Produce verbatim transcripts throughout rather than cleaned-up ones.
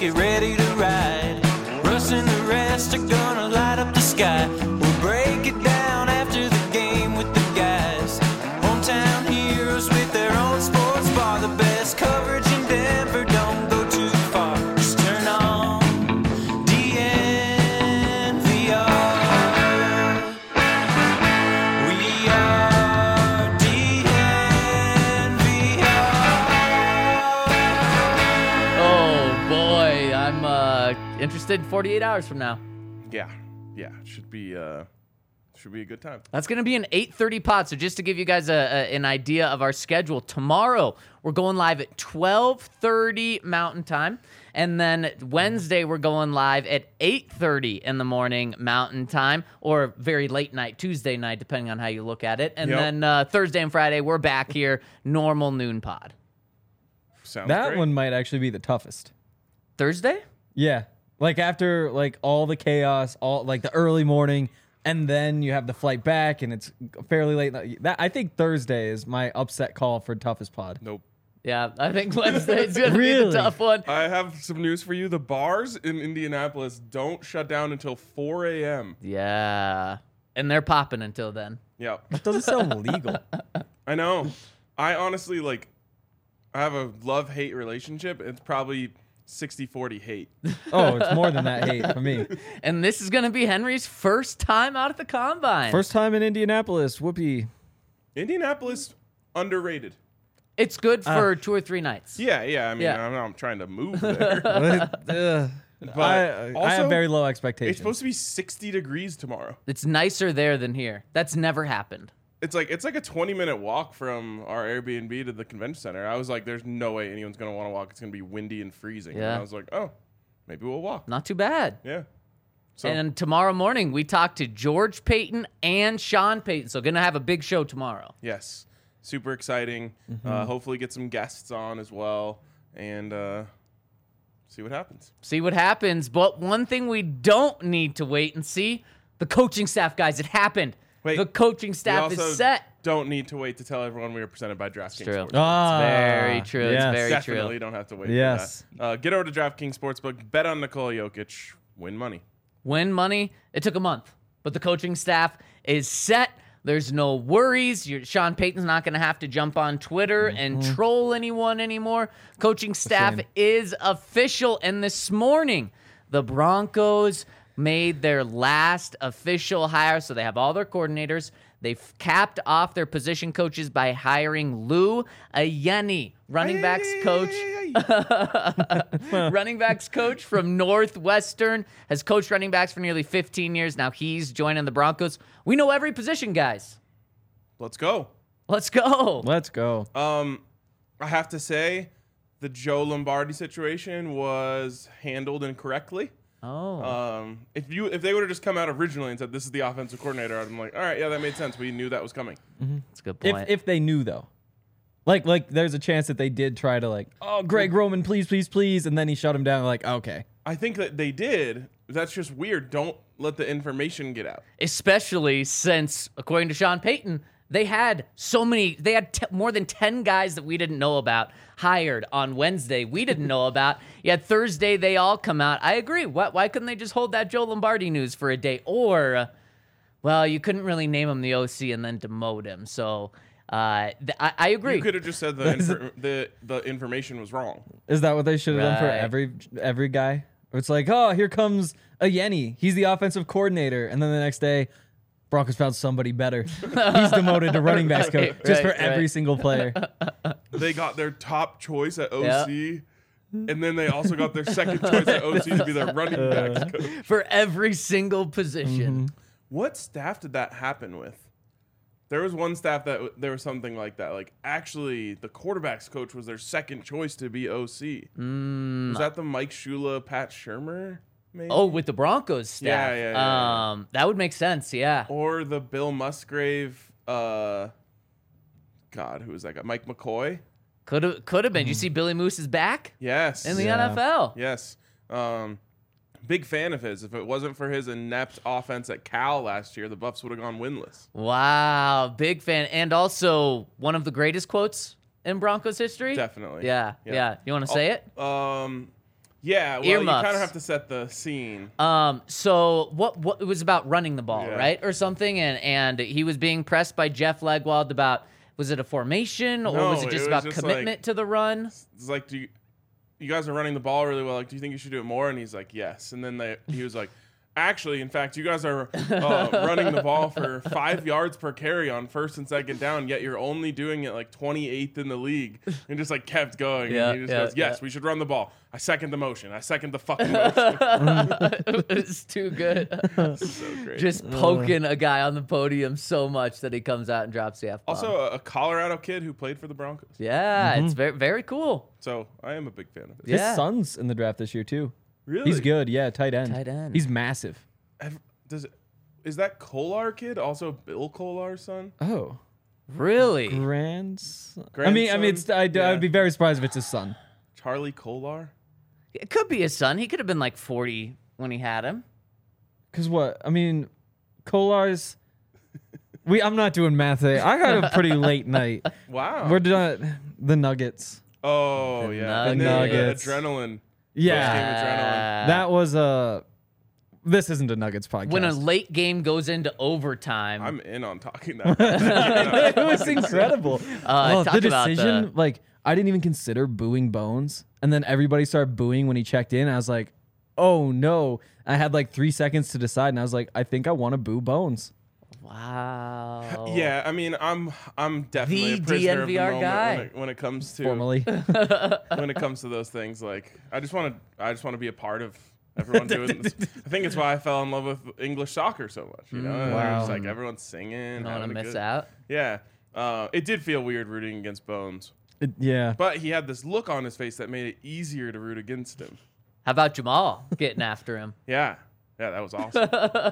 get ready to ride. Russ and the rest are gonna light up the sky. We'll break it down after the game with the guys. Hometown heroes with their own sports bar. The best coverage in Denver, don't go too far. Just turn on D N V R. We are D N V R. Oh boy, I'm uh, interested in forty-eight hours from now. Yeah, yeah, should be uh, should be a good time. That's going to be an eight thirty pod. So just to give you guys a, a, an idea of our schedule, tomorrow we're going live at twelve thirty Mountain Time. And then Wednesday we're going live at eight thirty in the morning Mountain Time, or very late night, Tuesday night, depending on how you look at it. And Yep. then uh, Thursday and Friday we're back here, normal noon pod. Sounds That great. one might actually be the toughest. Thursday? Yeah. Like after like all the chaos, all like the early morning, and then you have the flight back and it's fairly late. night. That I think Thursday is my upset call for toughest pod. Nope. Yeah, I think Wednesday's going to be Really? the tough one. I have some news for you. The bars in Indianapolis don't shut down until four a.m. Yeah. And they're popping until then. Yeah, That doesn't sound legal. I know. I honestly, like, I have a love-hate relationship. It's probably sixty forty hate. Oh, it's more than that hate for me. And this is going to be Henry's first time out at the Combine. First time in Indianapolis. Whoopee. Indianapolis, underrated. It's good for two or three nights. Yeah, yeah. I mean, Yeah. I'm not trying to move there. Ugh. But I, I also, have very low expectations. It's supposed to be sixty degrees tomorrow. It's nicer there than here. That's never happened. It's like it's like a twenty minute walk from our Airbnb to the convention center. I was like, "There's no way anyone's gonna want to walk. It's gonna be windy and freezing." Yeah. And I was like, "Oh, maybe we'll walk." Not too bad. Yeah. So And tomorrow morning, we talk to George Payton and Sean Payton. So going to have a big show tomorrow. yes, super exciting. Uh, hopefully, get some guests on as well, and uh, see what happens. See what happens. But one thing we don't need to wait and see, the coaching staff, guys. It happened. Wait, the coaching We staff also is set. don't need to wait to tell everyone we were presented by DraftKings true. Sportsbook. Ah, very true. It's yes. very Definitely true. don't have to wait Yes. for that. Uh, get over to DraftKings Sportsbook, bet on Nikola Jokic, win money. Win money. It took a month, but the coaching staff is set. There's no worries. You're, Sean Payton's not going to have to jump on Twitter and troll anyone anymore. Coaching staff shame. is official. And this morning, the Broncos made their last official hire. So they have all their coordinators. They've capped off their position coaches by hiring Lou Ayeni, running backs coach. running backs coach from Northwestern, has coached running backs for nearly fifteen years. Now he's joining the Broncos. We know every position, guys. Let's go. Let's go. Let's go. Um, I have to say, the Joe Lombardi situation was handled incorrectly. Oh. Um, if you if they would have just come out originally and said this is the offensive coordinator, I'd be like, all right, yeah, that made sense. We knew that was coming. That's a good If point. if they knew though, like like there's a chance that they did try to like, oh Greg Roman, please please please, and then he shut him down. Like okay, I think that they did. That's just weird. Don't let the information get out. Especially since, according to Sean Payton, they had so many, they had t- more than ten guys that we didn't know about hired on Wednesday. We didn't know about. Yet Thursday, they all come out. I agree. Why, why couldn't they just hold that Joe Lombardi news for a day? Or, uh, well, you couldn't really name him the O C and then demote him. So uh, th- I, I agree. You could have just said the, infor- the the information was wrong. is that what they should have done for Right. every every guy? It's like, oh, here comes a Yeni. He's the offensive coordinator, and then the next day, Broncos found somebody better. He's demoted to running backs coach Right, just for right, every right. single player. They got their top choice at O C, and then they also got their second choice at O C to be their running backs coach. for every single position. What staff did that happen with? There was one staff that w- there was something like that. Like, actually, the quarterbacks coach was their second choice to be O C. Mm. Was that the Mike Shula, Pat Shermer, maybe? Oh, with the Broncos staff. Yeah, yeah, yeah, yeah. Um, that would make sense, yeah. Or the Bill Musgrave, uh, God, who was that guy? Mike McCoy? Could have could have been. You see Billy Moose is back Yes. in the Yeah. N F L. Yes. Um, big fan of his. If it wasn't for his inept offense at Cal last year, the Buffs would have gone winless. Wow, big fan. And also one of the greatest quotes in Broncos history. Definitely. Yeah, yeah. Yeah. You want to say it? Um, Yeah, well, you Earmuffs. kind of have to set the scene. Um, so what? What it was about running the ball, Yeah. right, or something, and and he was being pressed by Jeff Legwold about was it a formation or No, was it just it was about just commitment like- to the run? It's like, do you, you guys are running the ball really well. Like, do you think you should do it more? And he's like, yes. And then they, he was like, actually, in fact, you guys are uh, running the ball for five yards per carry on first and second down, yet you're only doing it like twenty-eighth in the league. And just like kept going. Yeah, and he just yeah, goes, yes, yeah. we should run the ball. I second the motion. I second the fucking motion. It's too good. So great. Just poking a guy on the podium so much that he comes out and drops the F bomb. Also, a, a Colorado kid who played for the Broncos. yeah, it's very very cool. So I am a big fan of it. Yeah. His son's in the draft this year too. Really? He's good. Yeah, tight end. Tight end. He's massive. Have- Does it, is that Kolar kid also Bill Kolar's son? Oh, Really? grandson. I mean, I mean, it's. Grandson? I'd, Yeah. I'd be very surprised if it's his son. Charlie Kolar? It could be his son. He could have been like forty when he had him. Cause what? I mean, Kolar's. We. I'm not doing math today. I had a pretty late night. Wow. We're done. The Nuggets. oh, The yeah. And Nuggets. then, uh, Nuggets. adrenaline. Yeah, Game adrenaline. that was a. This isn't a Nuggets podcast. When a late game goes into overtime. I'm in on talking that. it was incredible. Uh, oh, talk the about decision, the- like I didn't even consider booing Bones, and then everybody started booing when he checked in. I was like, "Oh no!" I had like three seconds to decide, and I was like, "I think I want to boo Bones." wow. Yeah, I mean, I'm I'm definitely The a prisoner of the D N V R moment guy. when it, when it comes to Formally, when it comes to those things. Like, I just want to I just want to be a part of everyone doing this. I think it's why I fell in love with English soccer so much. You know, And Wow. it's like everyone's singing. Don't want having to a miss good- out. Yeah, uh, it did feel weird rooting against Bones, It- yeah. but he had this look on his face that made it easier to root against him. How about Jamal getting after him? Yeah, yeah, that was awesome.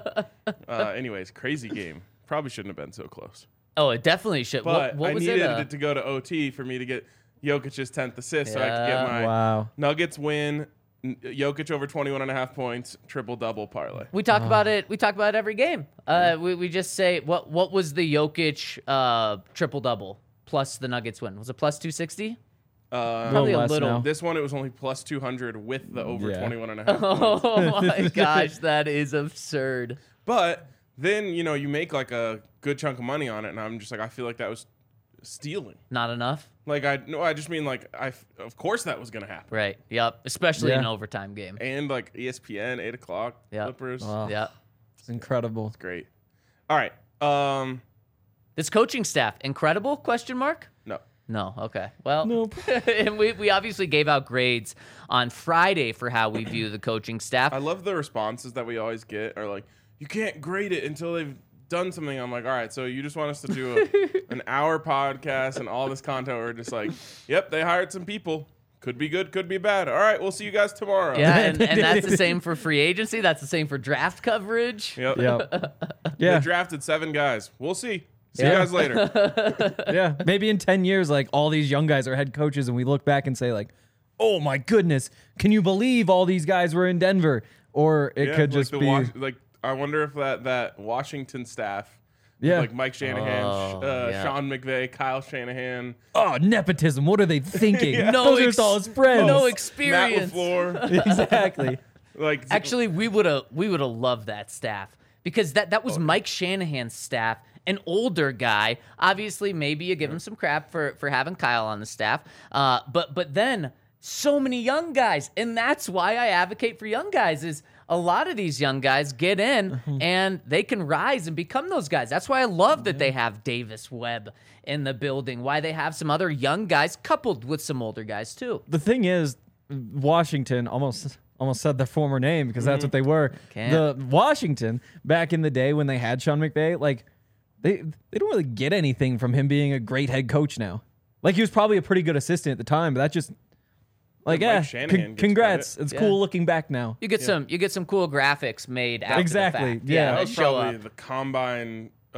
uh, anyways, crazy game. Probably shouldn't have been so close. Oh, it definitely should. But what what I was needed it? it, uh, to go to O T for me to get Jokic's tenth assist so I could Yeah. get my Wow. Nuggets win, N- Jokic over twenty-one and a half points, triple-double parlay. We talk about it. We talk about it every game. Uh, we, we just say what what was the Jokic uh, triple double plus the Nuggets win? Was it plus two sixty? Uh, Probably a less little. now. this one, it was only plus two hundred with the over Yeah. twenty-one and a half points. Oh my gosh, that is absurd. But then, you know, you make like a good chunk of money on it, and I'm just like, I feel like that was stealing. Not enough, Like, I no, I just mean like, I f- of course that was going to happen. right? Yep. Especially Yeah. an overtime game. And like E S P N, eight o'clock, Yeah. Clippers. Wow. Yep. It's incredible. Great. All right. Um, This coaching staff incredible? Question mark. no. No. Okay. Well, Nope. and we we obviously gave out grades on Friday for how we view the coaching staff. I love the responses that we always get are like, you can't grade it until they've done something. I'm like, all right, so you just want us to do a, an hour podcast and all this content. We're just like, yep, they hired some people. Could be good, could be bad. All right, we'll see you guys tomorrow. Yeah, and, and that's the same for free agency. That's the same for draft coverage. Yep. Yeah. They Yeah. drafted seven guys. We'll see. See Yeah. you guys later. Yeah. Maybe in ten years, like all these young guys are head coaches, and we look back and say, like, oh my goodness, can you believe all these guys were in Denver? Or it Yeah, could like just the be. Wash- like I wonder if that that Washington staff, Yeah. like Mike Shanahan, Oh, uh, yeah. Sean McVay, Kyle Shanahan, Oh, nepotism. What are they thinking? No Those are ex- just all his friends. no Matt experience. LaFleur. exactly. Like Actually, we would have we would have loved that staff because that that was Oh, Mike Shanahan's staff, an older guy. Obviously, maybe you give him some crap for for having Kyle on the staff, uh, but but then so many young guys, and that's why I advocate for young guys. Is a lot of these young guys get in and they can rise and become those guys. That's why I love that they have Davis Webb in the building. Why they have some other young guys coupled with some older guys too. The thing is, Washington almost almost said their former name because that's what they were. Can't. The Washington back in the day when they had Sean McVay, like they they don't really get anything from him being a great head coach now. Like he was probably a pretty good assistant at the time, but that just like Yeah, Mike yeah, Shanahan con- gets congrats. credit. It's Yeah. cool looking back now. You get some you get some cool graphics made after Exactly, the fact. yeah. that that was show probably up. the combine uh,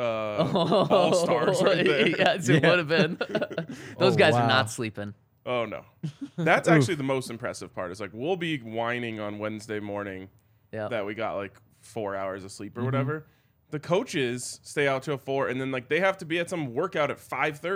all stars right there. Yes, it Yeah. would have been. Those Oh, guys wow. are not sleeping. Oh no, that's actually the most impressive part. Is like we'll be whining on Wednesday morning Yeah. that we got like four hours of sleep or whatever. The coaches stay out till four, and then like they have to be at some workout at five thirty.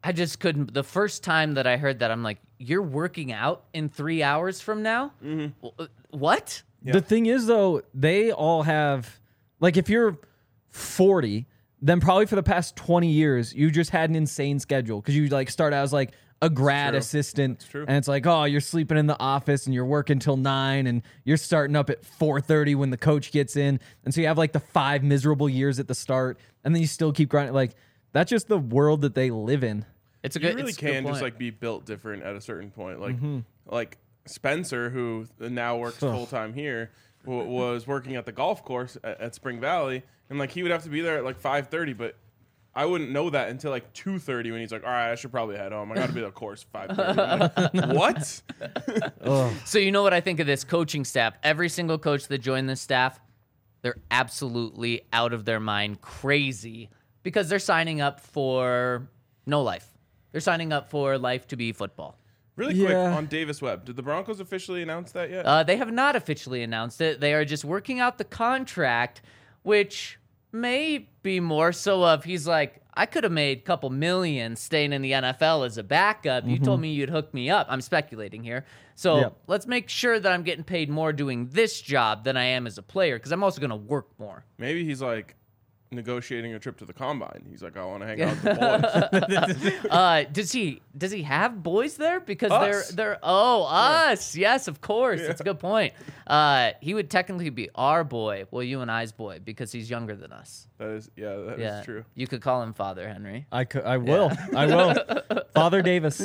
I just couldn't. The first time that I heard that, I'm like, you're working out in three hours from now? Mm-hmm. What? Yeah. The thing is, though, they all have, like, if you're forty, then probably for the past twenty years, you just had an insane schedule because you, like, start out as, like, a grad true. assistant. That's true. And it's like, oh, you're sleeping in the office and you're working till nine and you're starting up at four thirty when the coach gets in. And so you have, like, the five miserable years at the start, and then you still keep grinding. Like, that's just the world that they live in. It's a You good. really it's a good can just point. like be built different at a certain point. Like Mm-hmm. like Spencer, who now works full time here, w- was working at the golf course at, at Spring Valley, and like he would have to be there at like five thirty, but I wouldn't know that until like two thirty when he's like, all right, I should probably head home. I got to be at the course five thirty. Like, what? So you know what I think of this coaching staff? Every single coach that joined this staff, they're absolutely out of their mind, crazy, because they're signing up for no life. They're signing up for life to be football. Really quick Yeah. on Davis Webb. Did the Broncos officially announce that yet? Uh, they have not officially announced it. They are just working out the contract, which may be more so of he's like, I could have made a couple million staying in the N F L as a backup. You told me you'd hook me up. I'm speculating here. So Yep. let's make sure that I'm getting paid more doing this job than I am as a player because I'm also going to work more. Maybe he's like negotiating a trip to the combine. He's like, I want to hang out with the boys. Uh, does he does he have boys there? Because Us. they're they're oh us yes of course that's a good point. Uh, he would technically be our boy, well you and I's boy because he's younger than us. That is, yeah, that is Yeah, true. You could call him Father Henry. I, could, I will. I will. Father Davis.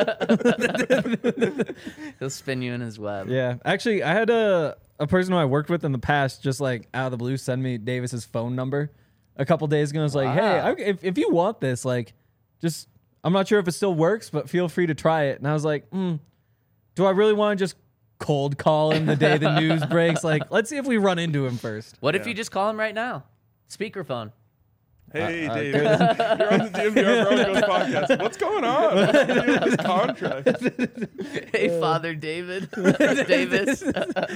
He'll spin you in his web. Yeah. Actually, I had a, a person who I worked with in the past just like out of the blue send me Davis's phone number a couple days ago. I was like, hey, Wow. I, if, if you want this, like, just, I'm not sure if it still works, but feel free to try it. And I was like, hmm, do I really want to just cold call him the day the news breaks? Like, let's see if we run into him first. What if Yeah. you just call him right now? Speakerphone. Hey, Uh, uh, David, you're on the D M V R Broncos podcast. What's going on? What's the deal with this contract? Hey, Father David Davis.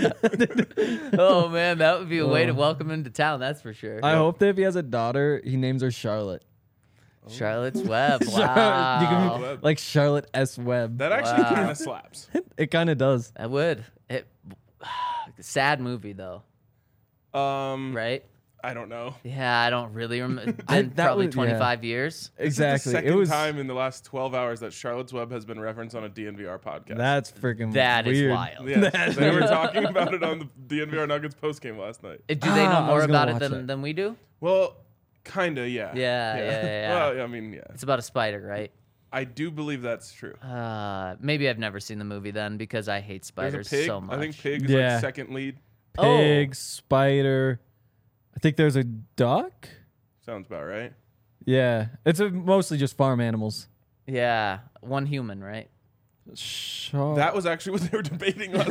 Oh man, that would be a way to welcome him to town. That's for sure. I hope that if he has a daughter, he names her Charlotte. Charlotte's Web. You can Wow. be Webb. like Charlotte S. Webb. That actually Wow. kind of slaps. It kind of does. I would. It. Sad movie though, Um, right? I don't know. Yeah, I don't really remember. I- Been that probably was- yeah. twenty-five years. Exactly. This is the second It was. time in the last twelve hours that Charlotte's Web has been referenced on a D N V R podcast. That's freaking That is weird. wild. Yes, That's they were weird. talking about it on the D N V R Nuggets postgame last night. Uh, Do they know Ah, I more was gonna about it watch than, that. than we do? Well, kinda, yeah. Yeah, yeah, yeah, yeah. Well, I mean, yeah. It's about a spider, right? I do believe that's true. Uh, maybe I've never seen the movie then because I hate There's spiders a pig. so much. I think pig is Yeah. like second lead. Pig, Oh. spider. I think there's a duck. Sounds about right. Yeah, it's a, mostly just farm animals. Yeah, one human, right? Shark. That was actually what they were debating last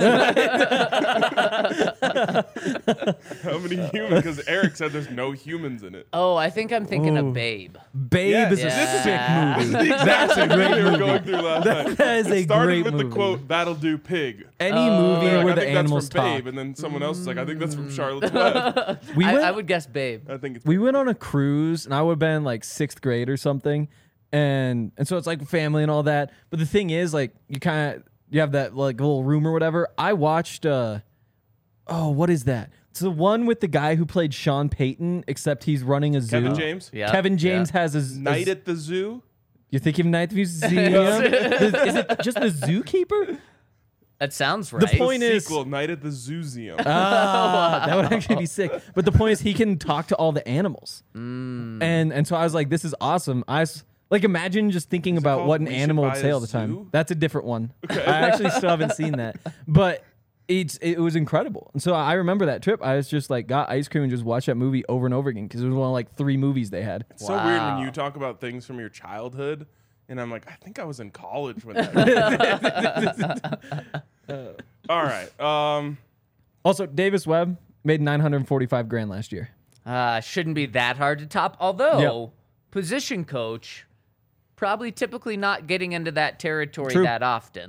night. How many humans? Because Eric said there's no humans in it. Oh, I think I'm thinking Ooh. of Babe. Babe Yes, is a this is sick it. movie. This is the exact same Great thing they were movie. going through last night. That is a It started great with movie. the quote, "That'll do, pig." Any Oh. movie They're like, where I the think animals that's from talk. Babe, and then someone else is like, "I think that's from Charlotte's Web." We I, went. I would guess Babe. I think it's we went on a cruise, and I would have been like sixth grade or something, and and so it's like family and all that. But the thing is, like, you kind of you have that like little room or whatever. I watched. uh Oh, what is that? It's the one with the guy who played Sean Payton, except he's running a zoo. Kevin James. Yeah. Kevin James yeah. has a z- Night a, at the Zoo. You think of Night at the Museum? is it just the zookeeper? That sounds right. The point is, Sequel, Night at the Zooseum. ah, that would actually be sick. But the point is, he can talk to all the animals, Mm. and and so I was like, this is awesome. I was, like imagine just thinking it about called what an We Should animal would Buy say a all the time. Zoo? That's a different one. I actually still haven't seen that, but it's it was incredible. And so I remember that trip. I was just like got ice cream and just watched that movie over and over again because it was one of like three movies they had. It's so weird when Wow. you talk about things from your childhood, and I'm like, I think I was in college when that. All right. Um, Also, Davis Webb made nine hundred forty-five grand last year. Uh, shouldn't be that hard to top. Although, Yep. position coach, probably typically not getting into that territory True. that often.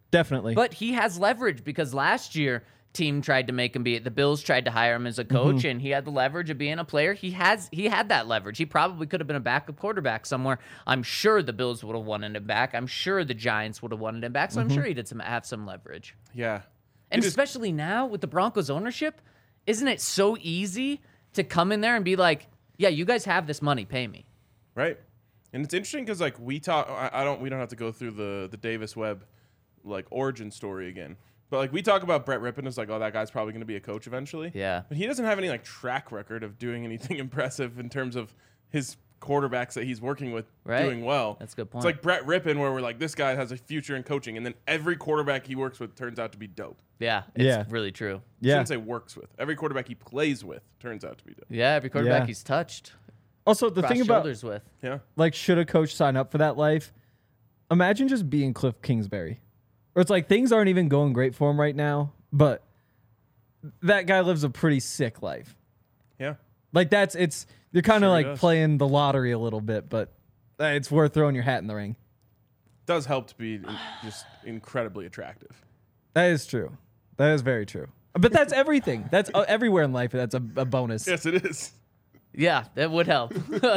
Definitely. But he has leverage because last year team tried to make him be it. The Bills tried to hire him as a coach, Mm-hmm. and he had the leverage of being a player. He has he had that leverage. He probably could have been a backup quarterback somewhere. I'm sure the Bills would have wanted him back. I'm sure the Giants would have wanted him back. So Mm-hmm. I'm sure he did some have some leverage. Yeah. And It is- especially now with the Broncos ownership, isn't it so easy to come in there and be like, "Yeah, you guys have this money, pay me." Right. And it's interesting because like we talk, I, I don't, we don't have to go through the the Davis Webb like origin story again. But like we talk about Brett Rippon as like, oh, that guy's probably going to be a coach eventually. Yeah. But he doesn't have any like track record of doing anything impressive in terms of his quarterbacks that he's working with Right. doing well. That's a good point. It's like Brett Rippon where we're like, this guy has a future in coaching, and then every quarterback he works with turns out to be dope. Yeah, it's Yeah. really true. yeah. Shouldn't say works with. Every quarterback he plays with turns out to be dope. Yeah, every quarterback Yeah. he's touched, Also, the crossed thing about shoulders with. Yeah. like, should a coach sign up for that life? Imagine just being Cliff Kingsbury, where it's like things aren't even going great for him right now, but that guy lives a pretty sick life. Yeah. Like that's it's you're kind of Sure he like does. playing the lottery a little bit, but uh, it's worth throwing your hat in the ring. Does help to be in- just incredibly attractive. That is true. That is very true. But that's everything. That's uh, everywhere in life. That's a, a bonus. Yes, it is. Yeah, that would help.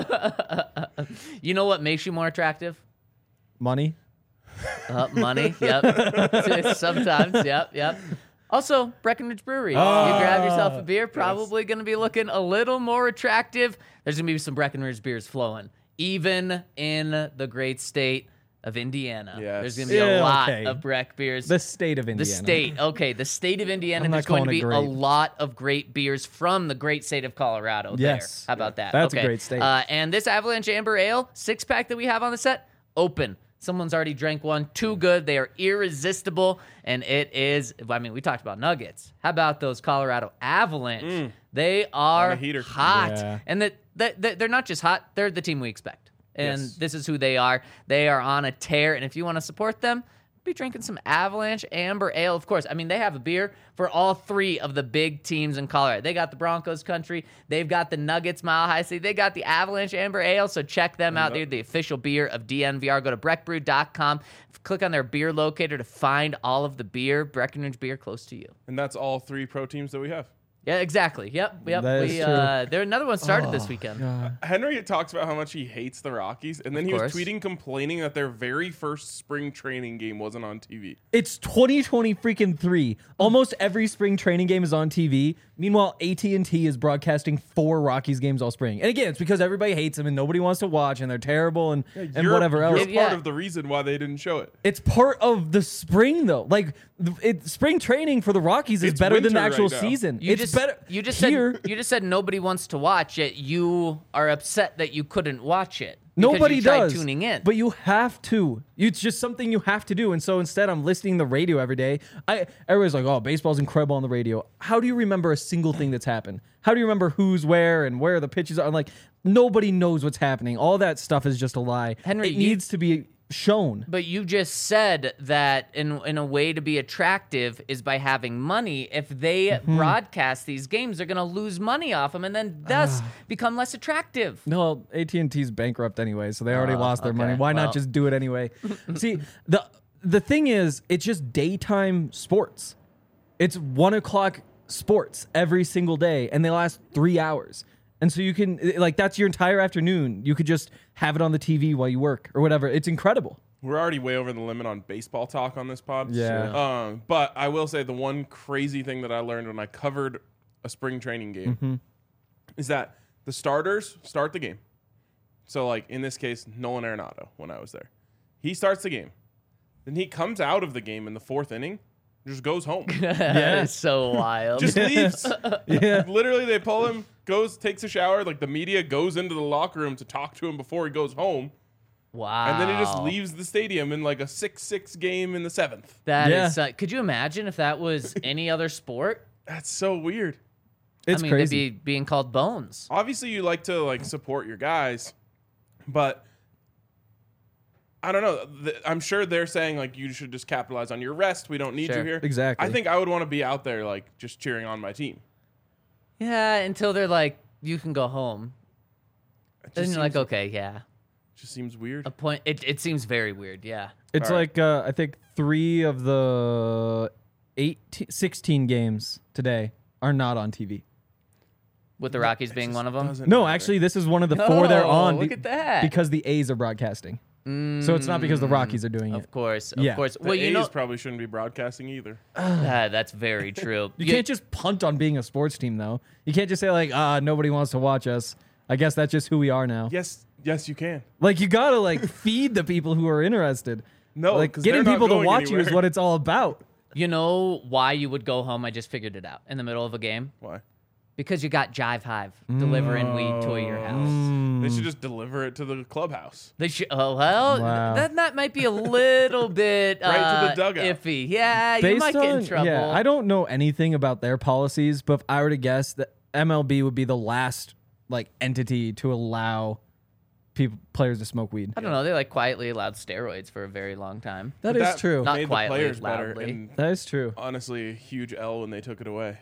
You know what makes you more attractive? Money. Uh, money. Yep. Sometimes. Yep. Yep. Also, Breckenridge Brewery. You grab yourself a beer, probably going to be looking a little more attractive. There's going to be some Breckenridge beers flowing, even in the great state of Indiana. Yes. There's going to be Yeah, a lot okay. of Breck beers. The state of The Indiana. state, okay, the state of Indiana. I'm not There's going to calling be it a great. lot of great beers from the great state of Colorado. Yes. There. How about that? That's a okay. great state. Uh, and this Avalanche Amber Ale six pack that we have on the set, open. Someone's already drank one. Too good. They are irresistible. And it is, I mean, we talked about Nuggets. How about those Colorado Avalanche? They are On a heater. hot. Yeah. And that the, the, they're not just hot, they're the team we expect. And Yes. this is who they are. They are on a tear. And if you want to support them, be drinking some Avalanche Amber Ale. Of course, I mean, they have a beer for all three of the big teams in Colorado. They got the Broncos country. They've got the Nuggets Mile High City. They got the Avalanche Amber Ale. So check them out. They're the official beer of D N V R. Go to breck brew dot com. Click on their beer locator to find all of the beer, Breckenridge beer close to you. And that's all three pro teams that we have. Yeah, exactly. Yep. Yep. That we, is true. uh, there another one started this weekend. God. Henry talks about how much he hates the Rockies, and then Of he course. was tweeting complaining that their very first spring training game wasn't on T V. It's twenty twenty freaking three. Almost every spring training game is on T V. Meanwhile, A T and T is broadcasting four Rockies games all spring. And again, it's because everybody hates them and nobody wants to watch and they're terrible and, and You're- whatever else. You're Yeah. part of the reason why they didn't show it. It's part of the spring though. Like th- it, spring training for the Rockies is It's better than the winter actual right now. season. You it's just better. You just here. said you just said nobody wants to watch it. You are upset that you couldn't watch it. because Nobody you tried does. tuning in. But you have to. It's just something you have to do. And so instead, I'm listening to the radio every day. I everybody's like, "Oh, baseball's incredible on the radio." How do you remember a single thing that's happened? How do you remember who's where and where the pitches are? I'm like, nobody knows what's happening. All that stuff is just a lie. Henry, it you- needs to be shown. But you just said that in in a way to be attractive is by having money. If they Mm-hmm. broadcast these games, they're going to lose money off them and then thus Ah. become less attractive. No, A T and T's bankrupt anyway, so they already Oh, lost their money. okay. Why Well. not just do it anyway? See, the the thing is, it's just daytime sports. It's one o'clock sports every single day, and they last three hours. And so you can like that's your entire afternoon. You could just have it on the T V while you work or whatever. It's incredible. We're already way over the limit on baseball talk on this pod. Yeah. Um, but I will say the one crazy thing that I learned when I covered a spring training game Mm-hmm. is that the starters start the game. So, like in this case, Nolan Arenado, when I was there, he starts the game. Then he comes out of the game in the fourth inning, and just goes home. Yeah, it's so wild. Just leaves. Yeah. Literally, they pull him, goes, takes a shower. Like the media goes into the locker room to talk to him before he goes home. wow. And then he just leaves the stadium in like a six six game in the seventh. That Yeah. is. Uh, could you imagine if that was any other sport? That's so weird. It's I mean, crazy. they'd be being called bones. Obviously, you like to like support your guys, but I don't know. Th- I'm sure they're saying like you should just capitalize on your rest. We don't need Sure. you here. Exactly. I think I would want to be out there like just cheering on my team. Yeah, until they're like, you can go home. It Then just, you're like, seems, okay, yeah. just seems weird. A point. It, it seems very weird. Yeah. It's All like right. uh, I think three of the eighteen, sixteen games today are not on T V. With the Rockies being one of them. Doesn't No, matter. actually, this is one of the four they're Oh, on. look be- at that. Because the A's are broadcasting. So it's not because the Rockies are doing Of it. course, of Yeah. course. The Well, you A's know, probably shouldn't be broadcasting either. Ah, that's very true. You can't just punt on being a sports team, though. You can't just say, like, ah, nobody wants to watch us. I guess that's just who we are now. Yes, yes, you can. Like, you gotta, like, feed the people who are interested. No, like, 'cause getting they're not people to going watch you is anywhere. what it's all about. You know why you would go home? I just figured it out in the middle of a game. Why? Because you got Jive Hive delivering weed to your house. They Mm. should just deliver it to the clubhouse. They should. Oh well, Wow. that that might be a little bit Right to the uh, dugout. iffy. Yeah, you Based might get in on- trouble. Yeah, I don't know anything about their policies, but if I were to guess, that M L B would be the last, like, entity to allow people players to smoke weed. I don't know. They like quietly allowed steroids for a very long time. That But is true. Not made quietly, the players better, loudly. and That is true. honestly, a huge L when they took it away.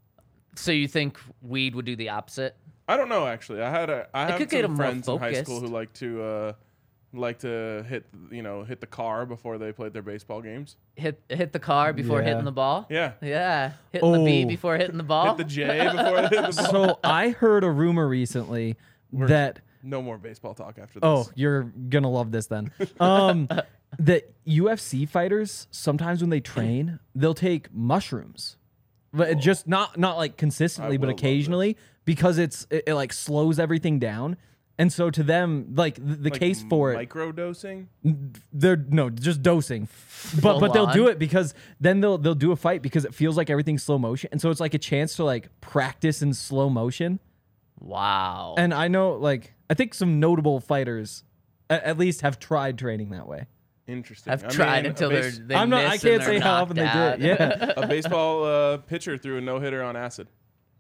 So you think weed would do the opposite? I don't know actually. I had a I It have could get 'em some more friends in high school who focused. like to uh, like to hit you know hit the car before they played their baseball games. Hit hit the car before Yeah. hitting the ball. Yeah, Yeah, hitting the B Oh. before hitting the ball. hit the J before they hit the ball. So I heard a rumor recently that No more baseball talk after this. oh, you're gonna love this then. Um, that U F C fighters sometimes when they train, they'll take mushrooms, but it just not not like consistently, I but will love occasionally because it's it, it like slows everything down. And so to them, like the, the Like case for it, micro dosing. they're no just dosing, but Full but they'll do on. it because then they'll they'll do a fight because it feels like everything's slow motion, and so it's like a chance to like practice in slow motion. Wow. And I know, like, I think some notable fighters at, at least have tried training that way. Interesting. I've I tried mean, a until they're base- they I'm not. I miss can't and say they're how often they knocked do it. out. Yeah, a baseball uh, pitcher threw a no hitter on acid.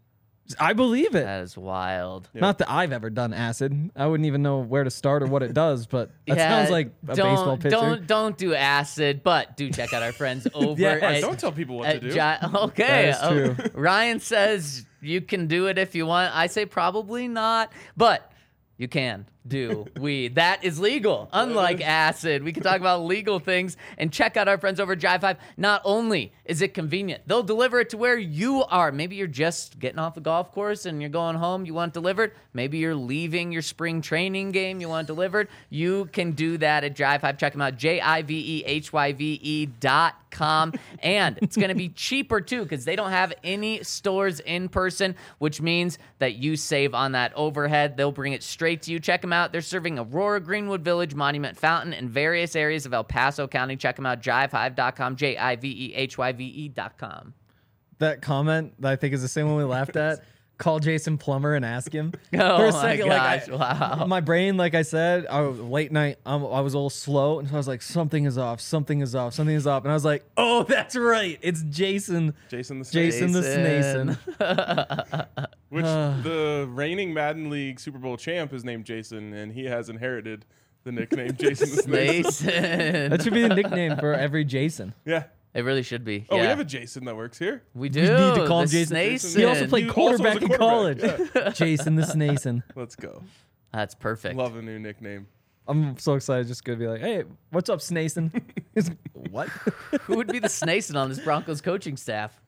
I believe it. That is wild. Yeah. Not that I've ever done acid. I wouldn't even know where to start or what it does, but that Yeah, sounds like a don't, baseball pitcher. Don't don't do acid, but do check out our friends over Yeah, at, Don't tell people what at to do. Gi- okay, That is oh, true. Ryan says you can do it if you want. I say probably not, but you can do weed. That is legal. Unlike acid, we can talk about legal things and check out our friends over at Jive Five. Not only is it convenient, they'll deliver it to where you are. Maybe you're just getting off the golf course and you're going home, you want it delivered. Maybe you're leaving your spring training game, you want it delivered. You can do that at Jive Five. Check them out, J I V E H Y V E dot com. And it's going to be cheaper too because they don't have any stores in person, which means that you save on that overhead. They'll bring it straight to you. Check them out. They're serving Aurora, Greenwood Village, Monument Fountain, and various areas of El Paso County. Check them out, jive hive dot com, J I V E H Y V E dot com. That comment that I think is the same one we laughed at. Call Jason Plummer and ask him. Oh For a my second, like, gosh, I- wow. My brain, like I said, I was late night. Um, I was a little slow, and so I was like, "Something is off. Something is off. Something is off." And I was like, "Oh, that's right. It's Jason. Jason the Snake. Jason, the Jason. Snason." Which the reigning Madden League Super Bowl champ is named Jason, and he has inherited the nickname Jason the Snake. Mason. That should be the nickname for every Jason. Yeah. It really should be. Oh, yeah. we have a Jason that works here. We do. need to call him the Jason. Snason. He also played He also was a quarterback in college. quarterback, Jason the Snason. Let's go. That's perfect. Love a new nickname. I'm so excited. Just gonna be like, "Hey, what's up, Snason?" He's- what? Who would be the Snason on this Broncos coaching staff?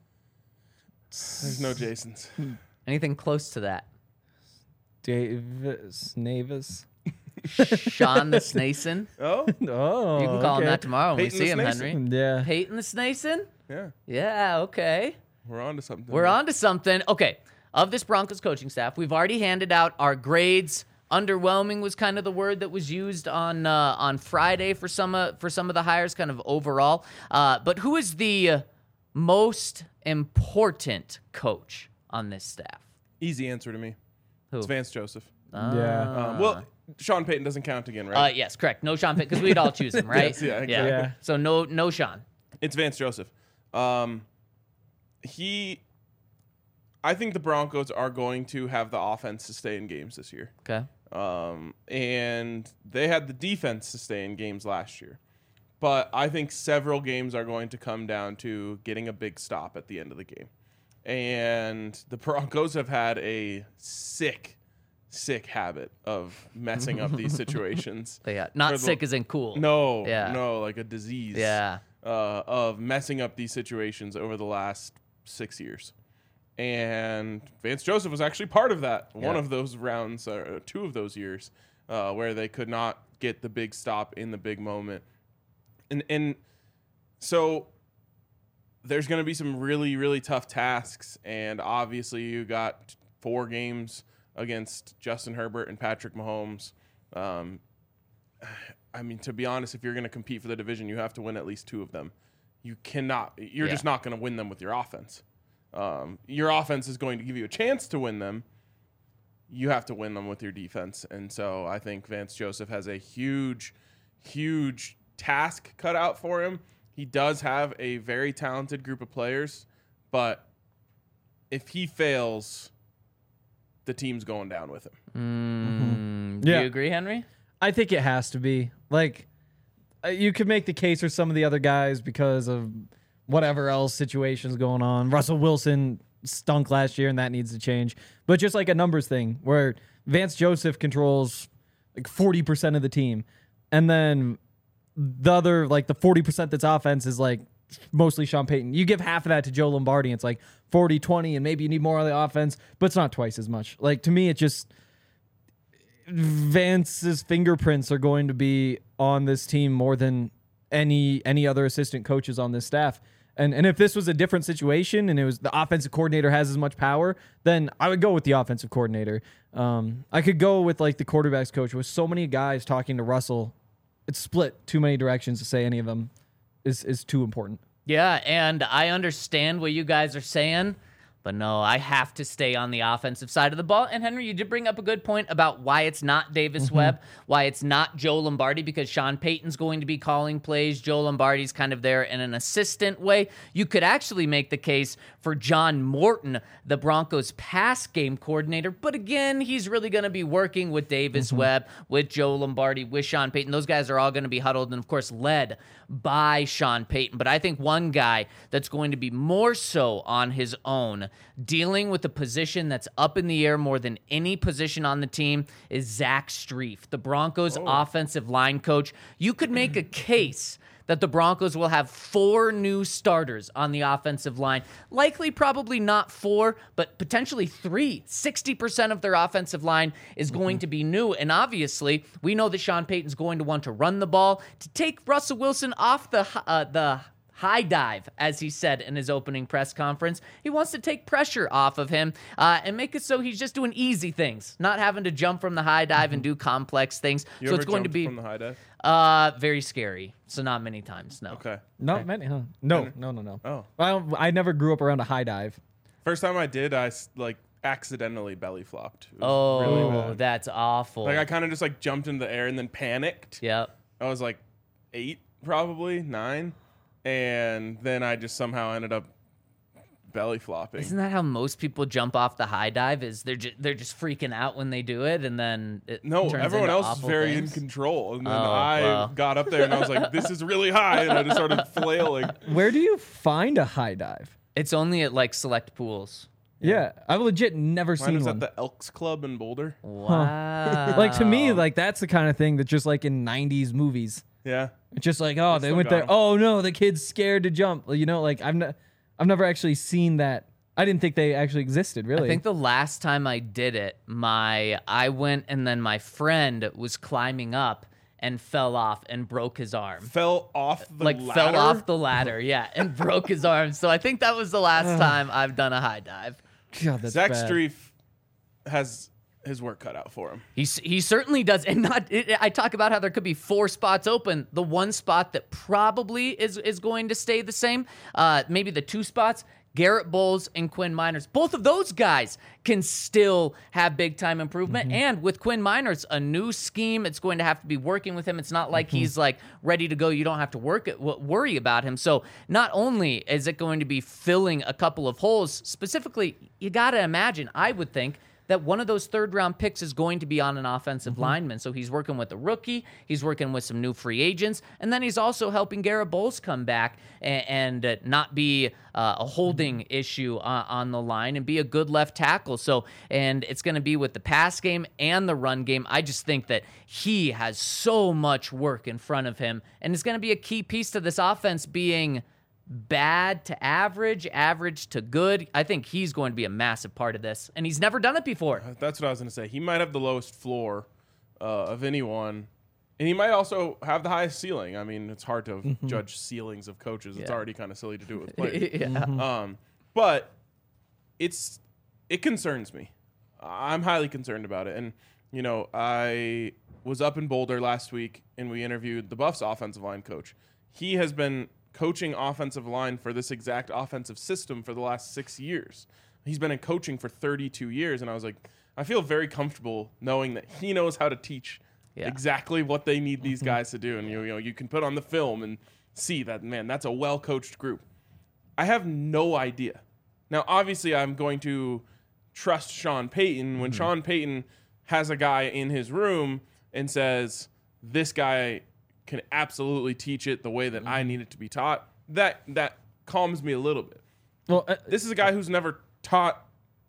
There's no Jasons. Anything close to that? Davis Navis. Sean the Snason? Oh, Oh, You can call him okay. that tomorrow when Peyton we the see him, Snason. Henry. Yeah. Peyton the Snason? yeah. Yeah, okay. We're on to something. We're on to something. Okay, of this Broncos coaching staff, we've already handed out our grades. Underwhelming was kind of the word that was used on uh, on Friday for some uh, for some of the hires, kind of overall. Uh, but who is the uh, most important coach on this staff? Easy answer to me. Who? It's Vance Joseph. Yeah. Um, well, Sean Payton doesn't count again, right? Uh, yes, correct. No Sean Payton, because we'd all choose him, right? Yes, yeah, exactly. Yeah. So no no Sean. It's Vance Joseph. Um, he, I think the Broncos are going to have the offense to stay in games this year. Okay. Um, and they had the defense to stay in games last year. But I think several games are going to come down to getting a big stop at the end of the game. And the Broncos have had a sick, sick habit of messing up these situations. But yeah, not For the- sick as in cool. No, Yeah. no, like a disease. Yeah. uh, of messing up these situations over the last six years. And Vance Joseph was actually part of that. One Yeah. of those rounds, uh, two of those years, uh, where they could not get the big stop in the big moment. And and so there's going to be some really, really tough tasks. And obviously you got four games against Justin Herbert and Patrick Mahomes. Um, I mean, to be honest, if you're going to compete for the division, you have to win at least two of them. You cannot, you're Yeah. just not going to win them with your offense. Um, your offense is going to give you a chance to win them. You have to win them with your defense. And so I think Vance Joseph has a huge, huge task cut out for him. He does have a very talented group of players, but if he fails, the team's going down with him. Mm, do Yeah. you agree, Henry? I think it has to be. Like, uh, you could make the case for some of the other guys because of whatever else situations going on. Russell Wilson stunk last year, and that needs to change. But just like a numbers thing, where Vance Joseph controls like forty percent of the team, and then the other, like the forty percent that's offense is like mostly Sean Payton. You give half of that to Joe Lombardi, and it's like forty twenty, and maybe you need more on the offense, but it's not twice as much. Like, to me, it just... Vance's fingerprints are going to be on this team more than any any other assistant coaches on this staff. And and if this was a different situation and it was the offensive coordinator has as much power, then I would go with the offensive coordinator. Um, I could go with like the quarterback's coach. With so many guys talking to Russell, it's split too many directions to say any of them is is too important. Yeah, and I understand what you guys are saying, but no, I have to stay on the offensive side of the ball. And Henry, you did bring up a good point about why it's not Davis Mm-hmm. Webb, why it's not Joe Lombardi, because Sean Payton's going to be calling plays. Joe Lombardi's kind of there in an assistant way. You could actually make the case for John Morton, the Broncos pass game coordinator. But again, he's really going to be working with Davis Mm-hmm. Webb, with Joe Lombardi, with Sean Payton. Those guys are all going to be huddled and, of course, led by Sean Payton. But I think one guy that's going to be more so on his own, dealing with a position that's up in the air more than any position on the team, is Zach Strief, the Broncos offensive line coach. You could make a case that the Broncos will have four new starters on the offensive line. Likely, probably not four, but potentially three. sixty percent of their offensive line is going to be new. And obviously, we know that Sean Payton's going to want to run the ball to take Russell Wilson off the uh, the high dive, as he said in his opening press conference. He wants to take pressure off of him uh, and make it so he's just doing easy things, not having to jump from the high dive and do complex things. You so ever it's going to jumped be from the high dive? uh, very scary. So not many times, no. Okay. Not many, huh? No, no, no, no. Oh. Well, I never grew up around a high dive. First time I did, I s- like accidentally belly flopped. It was Oh, really bad. that's awful. Like I kind of just like jumped in the air and then panicked. Yep. I was like eight, probably nine, and then I just somehow ended up belly flopping. Isn't that how most people jump off the high dive? Is they're just they're just freaking out when they do it, and then it No, turns everyone into else is awful very things? in control, and then Oh, I well. got up there and I was like, "This is really high," and I just started flailing. Where do you find a high dive? It's only at like select pools. Yeah, I've legit never Mine seen was one. at the Elks Club in Boulder. Wow. Like, to me, like that's the kind of thing that just like in nineties movies. Yeah, It's just like, oh, they still went got there. 'em. Oh no, the kid's scared to jump. Well, you know, like I've ne- I've never actually seen that. I didn't think they actually existed. Really, I think the last time I did it, my I went and then my friend was climbing up and fell off and broke his arm. fell off the Like ladder. fell off the ladder, yeah, and broke his arm. So I think that was the last time I've done a high dive. God, that's Zach bad. Strief has his work cut out for him. He s- he certainly does, and not. It, I talk about how there could be four spots open. The one spot that probably is is going to stay the same. Uh, maybe the two spots. Garrett Bowles and Quinn Miners. Both of those guys can still have big time improvement. Mm-hmm. And with Quinn Miners, a new scheme. It's going to have to be working with him. It's not like Mm-hmm. he's like ready to go. You don't have to work it, w- worry about him. So not only is it going to be filling a couple of holes, specifically, you got to imagine, I would think, that one of those third round picks is going to be on an offensive Mm-hmm. lineman. So he's working with a rookie, he's working with some new free agents, and then he's also helping Garrett Bowles come back and, and uh, not be uh, a holding issue on, on the line and be a good left tackle. So, and it's going to be with the pass game and the run game. I just think that he has so much work in front of him, and it's going to be a key piece to this offense being bad to average, average to good. I think he's going to be a massive part of this, and he's never done it before. That's what I was going to say. He might have the lowest floor uh, of anyone, and he might also have the highest ceiling. I mean, it's hard to Mm-hmm. judge ceilings of coaches. It's Yeah. already kind of silly to do it with players. yeah. Mm-hmm. Um, but it's it concerns me. I'm highly concerned about it. And you know, I was up in Boulder last week, and we interviewed the Buffs offensive line coach. He has been coaching offensive line for this exact offensive system for the last six years. He's been in coaching for thirty-two years, and I was like, I feel very comfortable knowing that he knows how to teach Yeah. exactly what they need these guys to do. And you, you know, you can put on the film and see that, man, that's a well-coached group. I have no idea. Now, obviously, I'm going to trust Sean Payton when Sean Payton has a guy in his room and says, this guy can absolutely teach it the way that I need it to be taught. That that calms me a little bit. Well, uh, This is a guy who's never taught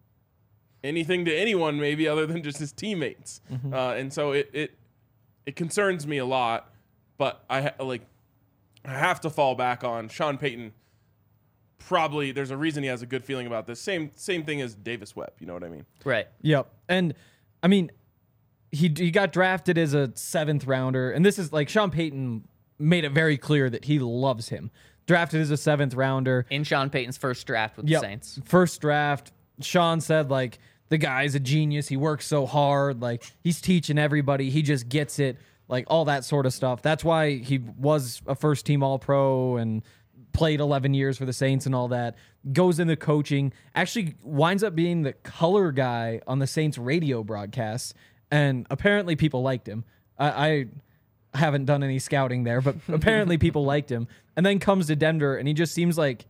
anything to anyone, maybe other than just his teammates, uh, and so it it it concerns me a lot. But I ha- like I have to fall back on Sean Payton. Probably there's a reason he has a good feeling about this. Same same thing as Davis Webb. You know what I mean? Right. Yep. And I mean, he he got drafted as a seventh rounder, and this is like Sean Payton made it very clear that he loves him. Drafted as a seventh rounder. In Sean Payton's first draft with Yep. the Saints. First draft. Sean said like the guy's a genius. He works so hard. Like he's teaching everybody. He just gets it. Like all that sort of stuff. That's why he was a first team All Pro and played eleven years for the Saints and all that. Goes into coaching. Actually winds up being the color guy on the Saints radio broadcasts. And apparently people liked him. I, I haven't done any scouting there, but apparently people liked him. And then comes to Denver, and he just seems like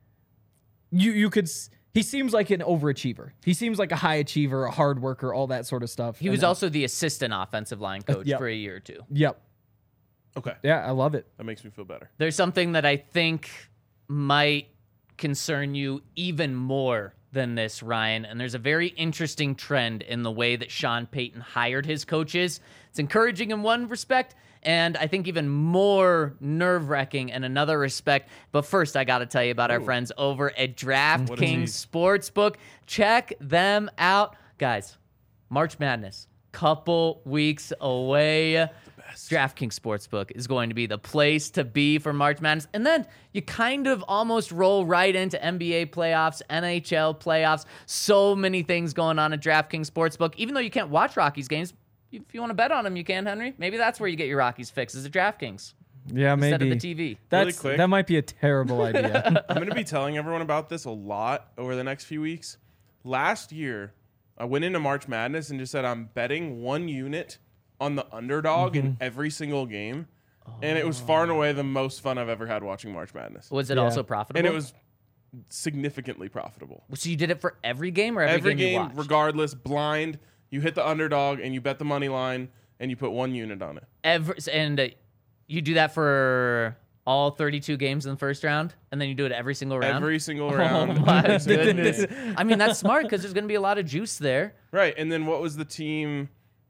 you you could. s- He seems like an overachiever. He seems like a high achiever, a hard worker, all that sort of stuff. He was also the assistant offensive line coach yep. for a year or two. Yep. Okay, Yeah, I love it. that makes me feel better. There's something that I think might concern you even more than this, Ryan. And there's a very interesting trend in the way that Sean Payton hired his coaches. It's encouraging in one respect, and I think even more nerve-wracking in another respect. But first, I got to tell you about our friends over at DraftKings Sportsbook. Check them out. Guys, March Madness, couple weeks away. DraftKings Sportsbook is going to be the place to be for March Madness. And then you kind of almost roll right into N B A playoffs, N H L playoffs. So many things going on at DraftKings Sportsbook. Even though you can't watch Rockies games, if you want to bet on them, you can, Henry. Maybe that's where you get your Rockies fix, is at DraftKings Yeah, instead maybe. of the T V. That's quick. that might be a terrible idea. I'm going to be telling everyone about this a lot over the next few weeks. Last year, I went into March Madness and just said I'm betting one unit on the underdog in every single game. And it was far and away the most fun I've ever had watching March Madness. Was it Yeah. also profitable? And it was significantly profitable. So you did it for every game or every, Every game, you game, watched? regardless, blind, you hit the underdog and you bet the money line and you put one unit on it. Every, and uh, you do that for all thirty-two games in the first round, and then you do it every single round? Every single Oh round. my every single goodness. game. I mean, that's smart because there's going to be a lot of juice there. Right. And then what was the team?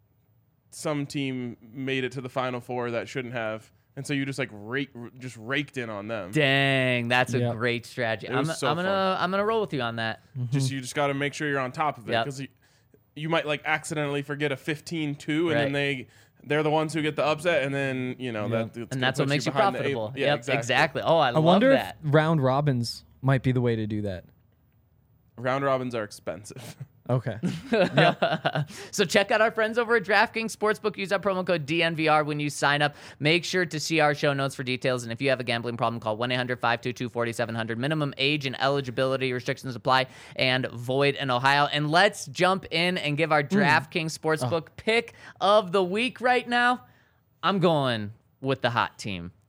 Some team made it to the Final Four that shouldn't have. And so you just like rake, just raked in on them. Dang, that's a Yeah. great strategy. It I'm, was so I'm gonna I'm gonna roll with you on that. Just you just got to make sure you're on top of it Yep. because you, you might like accidentally forget a fifteen two and Right. then they they're the ones who get the upset and then you know Yeah. that it's And gonna that's what put makes you behind the eight- profitable. Yeah, yep, exactly. exactly. Oh, I, I love wonder that. if round robins might be the way to do that. Round robins are expensive. Okay. So check out our friends over at DraftKings Sportsbook. Use that promo code D N V R when you sign up. Make sure to see our show notes for details. And if you have a gambling problem, call one eight hundred five two two four seven zero zero. Minimum age and eligibility restrictions apply and void in Ohio. And let's jump in and give our DraftKings Sportsbook pick of the week right now. I'm going with the hot team.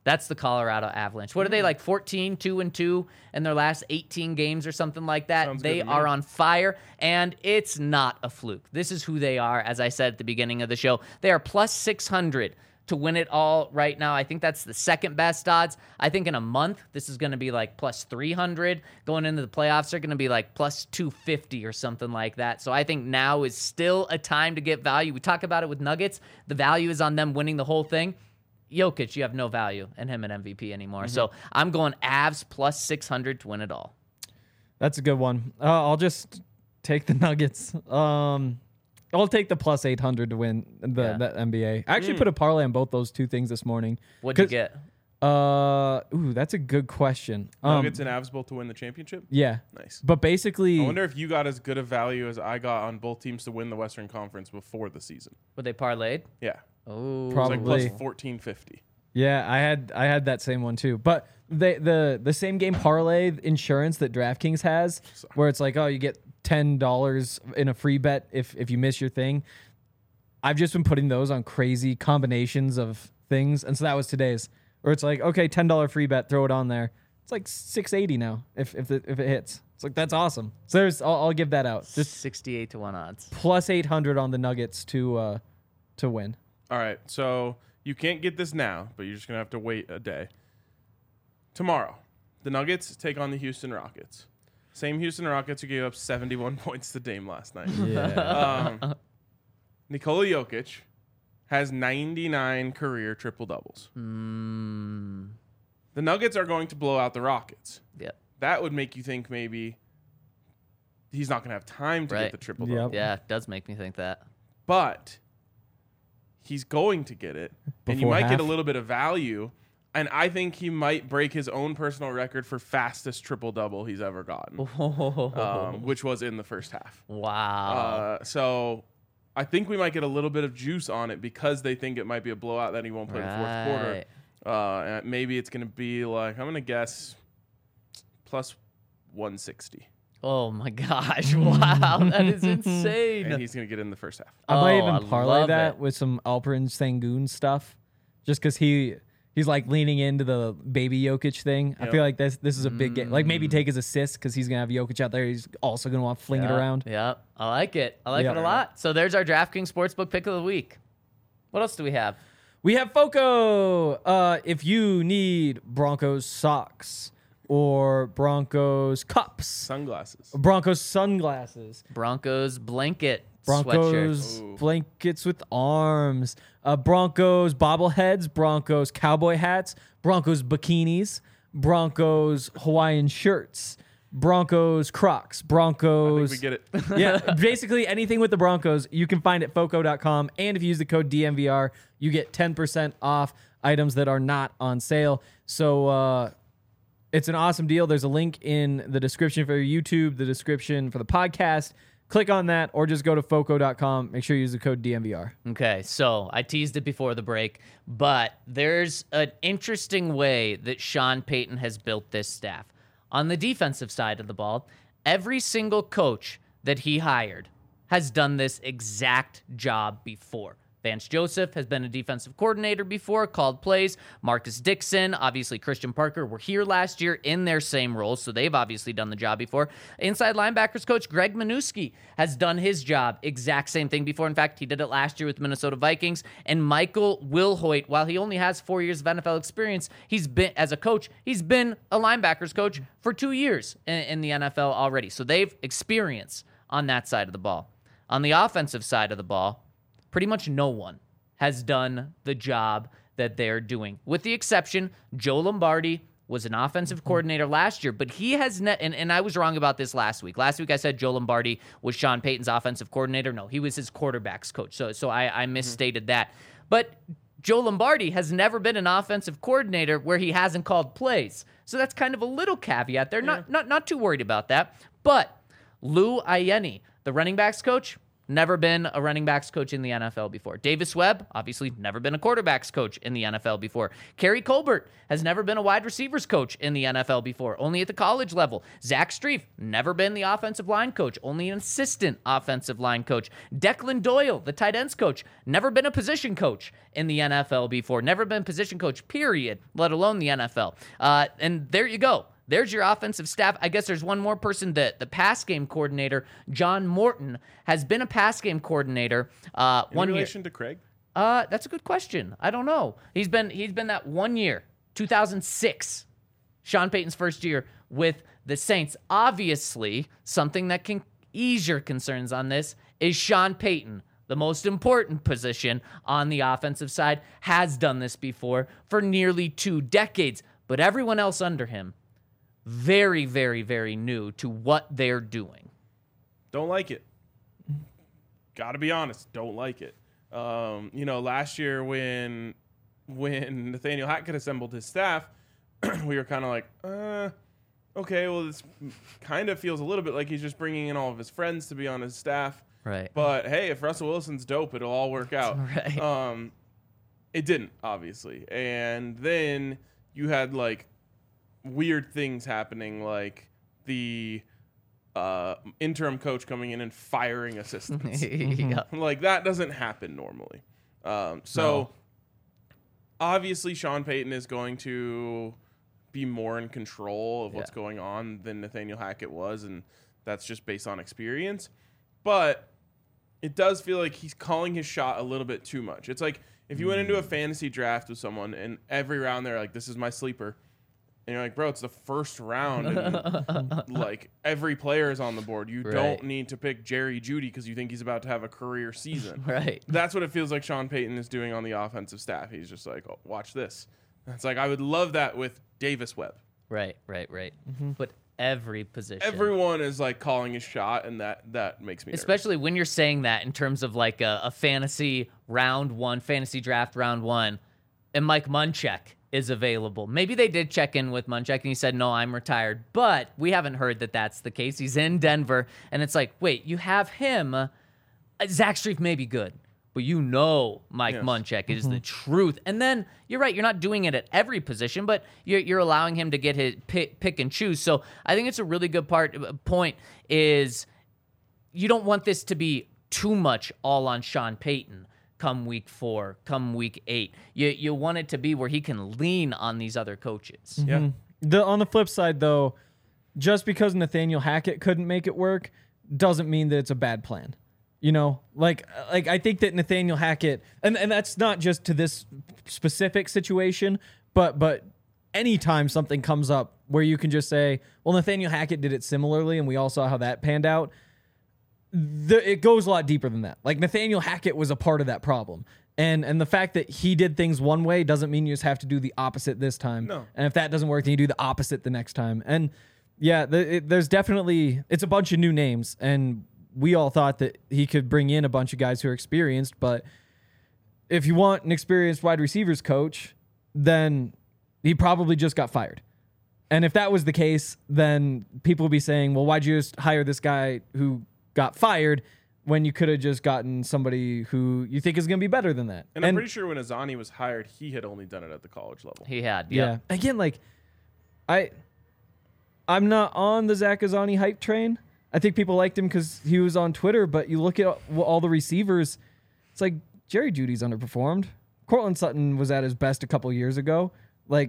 That's the Colorado Avalanche. What are they, like fourteen, two and two in their last eighteen games or something like that? Sounds They good to me. are on fire, and it's not a fluke. This is who they are, as I said at the beginning of the show. They are plus six hundred to win it all right now. I think that's the second best odds. I think in a month, this is going to be like plus three hundred. Going into the playoffs, they're going to be like plus two fifty or something like that. So I think now is still a time to get value. We talk about it with Nuggets. The value is on them winning the whole thing. Jokic, you have no value in him at M V P anymore. Mm-hmm. So I'm going Avs plus six hundred to win it all. That's a good one. Uh, I'll just take the Nuggets. Um, I'll take the plus eight hundred to win the, Yeah. the N B A. I actually put a parlay on both those two things this morning. What'd you 'Cause- get? Uh, ooh, that's a good question. Um, Nuggets and Avs both to win the championship. yeah, Nice. but basically, I wonder if you got as good a value as I got on both teams to win the Western Conference before the season. Were they parlayed? Yeah, Oh, it's Probably. like plus fourteen fifty. yeah, I had I had that same one too. But they, the the same game parlay insurance that DraftKings has, where it's like, oh, you get ten dollars in a free bet if if you miss your thing. I've just been putting those on crazy combinations of things, and so that was today's. Where it's like, okay, ten dollar free bet, throw it on there. It's like six eighty now if if it, if it hits. It's like that's awesome. So there's I'll, I'll give that out. Just sixty-eight to one odds. plus eight hundred on the Nuggets to uh to win. All right, so you can't get this now, but you're just gonna have to wait a day. Tomorrow, the Nuggets take on the Houston Rockets. Same Houston Rockets who gave up seventy-one points to Dame last night. Yeah. Um, Nikola Jokic has ninety-nine career triple doubles. Mm, The Nuggets are going to blow out the Rockets. yep. That would make you think maybe he's not going to have time to Right. get the triple Yep. double. Yeah, it does make me think that. But he's going to get it. and you Before might get a half. little bit of value. And I think he might break his own personal record for fastest triple double he's ever gotten, um, which was in the first half. Wow. Uh, so I think we might get a little bit of juice on it because they think it might be a blowout that he won't play the fourth quarter. Right. Uh, and maybe it's going to be like, I'm going to guess plus one sixty. Oh my gosh! Wow, that is insane. And he's going to get in the first half. I might Oh, I even parlay love that it. with some Alperen Sengun stuff, just because he he's like leaning into the baby Jokic thing. I Yep. feel like this this is a big game. Like maybe take his assist because he's gonna have Jokic out there. He's also gonna want to fling it Yeah, around. Yeah, I like it. I like Yeah. it a lot. So there's our DraftKings Sportsbook pick of the week. What else do we have? We have Foco. Uh, if you need Broncos socks or Broncos cups, Sunglasses. Broncos sunglasses, Broncos blanket Broncos sweatshirts. Ooh. blankets with arms, uh, Broncos bobbleheads, Broncos cowboy hats, Broncos bikinis, Broncos Hawaiian shirts, Broncos Crocs, I think Broncos. we get it. Yeah, basically anything with the Broncos, you can find at foco dot com. And if you use the code D M V R, you get ten percent off items that are not on sale. So uh, it's an awesome deal. There's a link in the description for YouTube, the description for the podcast. Click on that or just go to foco dot com. Make sure you use the code D M V R. Okay, so I teased it before the break, but there's an interesting way that Sean Payton has built this staff. On the defensive side of the ball, every single coach that he hired has done this exact job before. Vance Joseph has been a defensive coordinator before, called plays. Marcus Dixon, obviously Christian Parker were here last year in their same roles, so they've obviously done the job before. Inside linebackers coach Greg Minuski has done his job, exact same thing before. In fact, he did it last year with Minnesota Vikings. And Michael Wilhoit, while he only has four years of N F L experience, he's been, as a coach, he's been a linebackers coach for two years in, in the N F L already. So they've experience on that side of the ball. On the offensive side of the ball, pretty much no one has done the job that they're doing, with the exception, Joe Lombardi was an offensive coordinator last year, but he has ne- and, and I was wrong about this last week. Last week I said Joe Lombardi was Sean Payton's offensive coordinator. No, he was his quarterback's coach. So so I, I misstated that. But Joe Lombardi has never been an offensive coordinator where he hasn't called plays. So that's kind of a little caveat there. Not not not too worried about that. But Lou Ayeni, the running backs coach, never been a running backs coach in the N F L before. Davis Webb, obviously never been a quarterbacks coach in the N F L before. Kerry Colbert has never been a wide receivers coach in the N F L before, only at the college level. Zach Strief, never been the offensive line coach, only an assistant offensive line coach. Declan Doyle, the tight ends coach, never been a position coach in the N F L before, never been position coach, period, let alone the N F L. Uh, and there you go. There's your offensive staff. I guess there's one more person, that the pass game coordinator, John Morton, has been a pass game coordinator uh, In one relation year. to Craig? Uh, that's a good question. I don't know. He's been he's been that one year, two thousand six, Sean Payton's first year with the Saints. Obviously, something that can ease your concerns on this is Sean Payton, the most important position on the offensive side, has done this before for nearly two decades. But everyone else under him, very, very, very new to what they're doing. Don't like it. Got to be honest. Don't like it. Um, you know, last year when when Nathaniel Hackett assembled his staff, we were kind of like, uh, okay, well, this kind of feels a little bit like he's just bringing in all of his friends to be on his staff. Right. But hey, if Russell Wilson's dope, it'll all work out. Right. Um, it didn't, obviously. And then you had like weird things happening, like the uh, interim coach coming in and firing assistants. Yeah. Like that doesn't happen normally. Um, so No. obviously Sean Payton is going to be more in control of what's Yeah. going on than Nathaniel Hackett was, and that's just based on experience. But it does feel like he's calling his shot a little bit too much. It's like if you went into a fantasy draft with someone and every round they're like, this is my sleeper. And you're like, bro, it's the first round. And like every player is on the board. You Right. don't need to pick Jerry Jeudy because you think he's about to have a career season. Right. That's what it feels like Sean Payton is doing on the offensive staff. He's just like, oh, watch this. It's like, I would love that with Davis Webb. Right, right, right. But every position. Everyone is like calling his shot, and that that makes me nervous. Especially when you're saying that in terms of like a, a fantasy round one, fantasy draft round one, and Mike Munchak is available. Maybe they did check in with Munchak and he said, no, I'm retired. But we haven't heard that that's the case. He's in Denver, and it's like, wait, you have him. Uh, Zach Strief may be good, but you know Mike Yes. Munchak is the truth. And then you're right, you're not doing it at every position, but you're, you're allowing him to get his pick, pick and choose. So I think it's a really good part point is you don't want this to be too much all on Sean Payton come week four, come week eight. You you want it to be where he can lean on these other coaches. Yeah. The on the flip side, though, just because Nathaniel Hackett couldn't make it work doesn't mean that it's a bad plan. You know, like like I think that Nathaniel Hackett, and, and that's not just to this specific situation, but but anytime something comes up where you can just say, well, Nathaniel Hackett did it similarly, and we all saw how that panned out. The, it goes a lot deeper than that. Like Nathaniel Hackett was a part of that problem. And and the fact that he did things one way doesn't mean you just have to do the opposite this time. No. And if that doesn't work, then you do the opposite the next time. And yeah, the, it, there's definitely, it's a bunch of new names. And we all thought that he could bring in a bunch of guys who are experienced. But if you want an experienced wide receivers coach, then he probably just got fired. And if that was the case, then people would be saying, well, why'd you just hire this guy who got fired when you could have just gotten somebody who you think is going to be better than that? And, I'm pretty sure when Azani was hired, he had only done it at the college level. He had, yeah. yeah. Again, like I, I'm not on the Zach Azani hype train. I think people liked him because he was on Twitter. But you look at all, all the receivers, it's like Jerry Jeudy's underperformed. Cortland Sutton was at his best a couple years ago. Like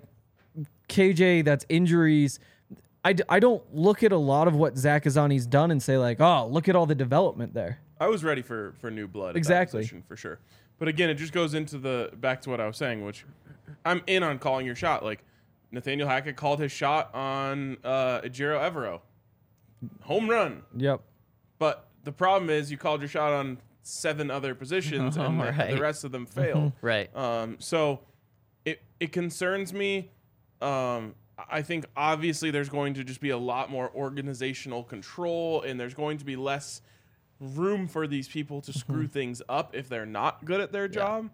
K J, that's injuries. I, d- I don't look at a lot of what Zach Azani's done and say like, oh, look at all the development there. I was ready for for new blood. At that Exactly. position, for sure. But again, it just goes into the back to what I was saying, which I'm in on calling your shot. Like Nathaniel Hackett called his shot on uh, Ejiro Evero, home run. Yep. But the problem is you called your shot on seven other positions, and the, Right. the rest of them failed. Right. Um, so it it concerns me. Um, I think obviously there's going to just be a lot more organizational control, and there's going to be less room for these people to screw things up if they're not good at their job.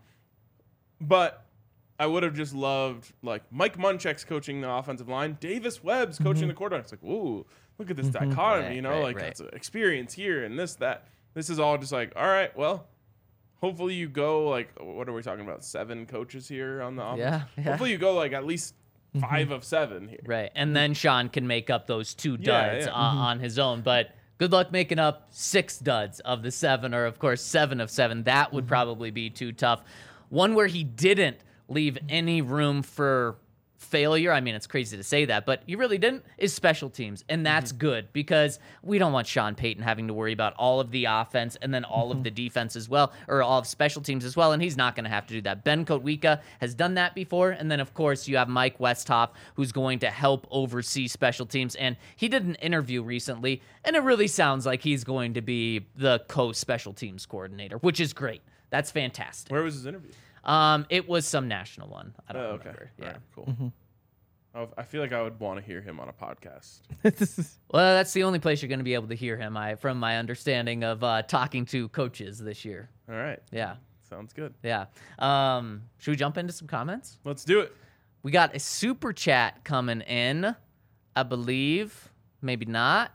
But I would have just loved like Mike Munchak's coaching the offensive line, Davis Webb's coaching the quarterback. It's like, ooh, look at this dichotomy, Right, you know, right, like right. that's experience here and this, that. this is all just like, all right, well, hopefully you go like, what are we talking about? Seven coaches here on the offense? Yeah, yeah. Hopefully you go like at least five of seven here. Right. And then Sean can make up those two duds Yeah, yeah. On, on his own. But good luck making up six duds of the seven, or, of course, seven of seven. That would probably be too tough. One where he didn't leave any room for failure. I mean, it's crazy to say that, but he really didn't, is special teams. And that's good because we don't want Sean Payton having to worry about all of the offense and then all of the defense as well, or all of special teams as well. And he's not going to have to do that. Ben Kotwika has done that before. And then, of course, you have Mike Westhoff, who's going to help oversee special teams. And he did an interview recently, and it really sounds like he's going to be the co-special teams coordinator, which is great. That's fantastic. Where was his interview? Um, it was some national one. I don't Oh, okay. remember. All Yeah. right, cool. I- I feel like I would want to hear him on a podcast. Well, that's the only place you're going to be able to hear him. I, from my understanding of uh, talking to coaches this year. All right. Yeah, Sounds good. yeah. Um, should we jump into some comments? Let's do it. We got a super chat coming in, I believe. Maybe not.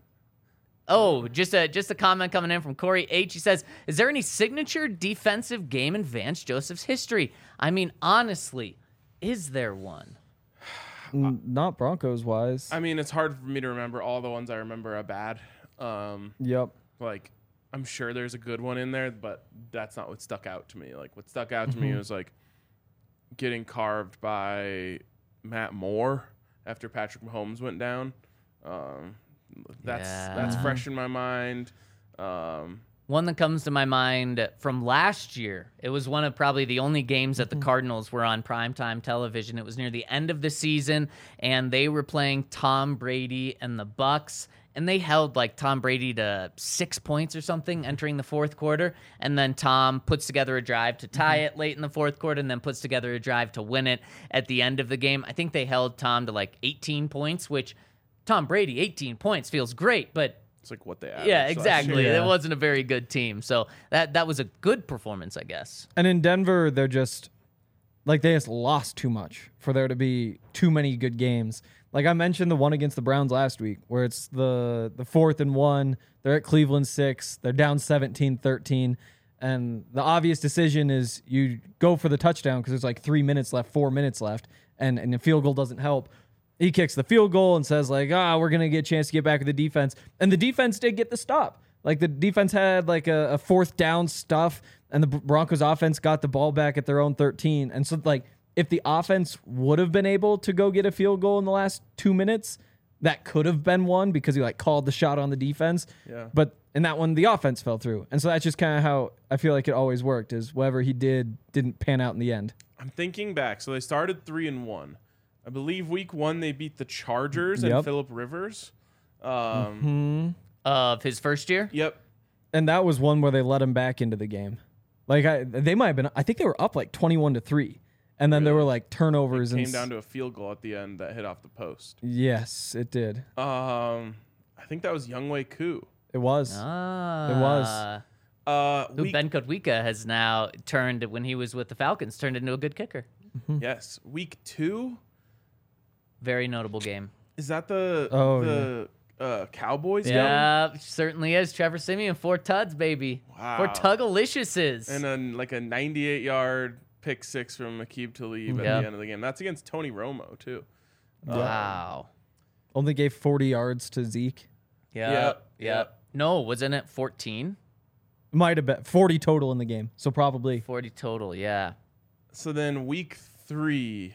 Oh, just a just a comment coming in from Corey H. He says, "Is there any signature defensive game in Vance Joseph's history? I mean, honestly, is there one?" N- Not Broncos wise. I mean, it's hard for me to remember. All the ones I remember are bad. Um, Yep. like, I'm sure there's a good one in there, but that's not what stuck out to me. Like, what stuck out to me was like getting carved by Matt Moore after Patrick Mahomes went down. Um, that's that's Yeah. fresh in my mind. Um, One that comes to my mind from last year. It was one of probably the only games that the Cardinals were on primetime television. It was near the end of the season, and they were playing Tom Brady and the Bucks, and they held like Tom Brady to six points or something entering the fourth quarter, and then Tom puts together a drive to tie it late in the fourth quarter, and then puts together a drive to win it at the end of the game. I think they held Tom to like eighteen points, which Tom Brady, eighteen points feels great, but it's like what they averaged yeah, last exactly. year. Yeah. It wasn't a very good team. So that that was a good performance, I guess. And in Denver, they're just like they just lost too much for there to be too many good games. Like I mentioned the one against the Browns last week, where it's the the fourth and one. They're at Cleveland six. They're down seventeen thirteen. And the obvious decision is you go for the touchdown because there's like three minutes left, four minutes left, and, and the field goal doesn't help. He kicks the field goal and says, like, ah, we're going to get a chance to get back with the defense. And the defense did get the stop. Like, the defense had, like, a, a fourth down stuff, and the Broncos offense got the ball back at their own thirteen. And so, like, if the offense would have been able to go get a field goal in the last two minutes, that could have been one because he, like, called the shot on the defense. Yeah. But in that one, the offense fell through. And so that's just kind of how I feel like it always worked, is whatever he did didn't pan out in the end. I'm thinking back. So they started three and one. I believe week one they beat the Chargers Yep. and Phillip Rivers. Um, Of his first year? Yep. And that was one where they let him back into the game. Like I, they might have been. I think they were up like twenty-one to three, and then there were like turnovers and Came down to a field goal at the end that hit off the post. yes, it did. Um, I think that was Younghoe Koo. It was. Ah. It was. Uh, Who week, Ben Kotwika has now turned, when he was with the Falcons, turned into a good kicker. yes, week two. Very notable game. Is that the Oh, the uh, Cowboys game? Yeah, certainly is. Trevor Simeon, four tuds, baby. Wow. Four Tugaliciouses. And then like a ninety-eight yard pick six from Aqib Talib at Yeah. the end of the game. That's against Tony Romo too. Wow. Only gave forty yards to Zeke. Yep. Yep, Yep. yep. No, wasn't it fourteen? Might have been forty total in the game. So probably. forty total, yeah. So then week three.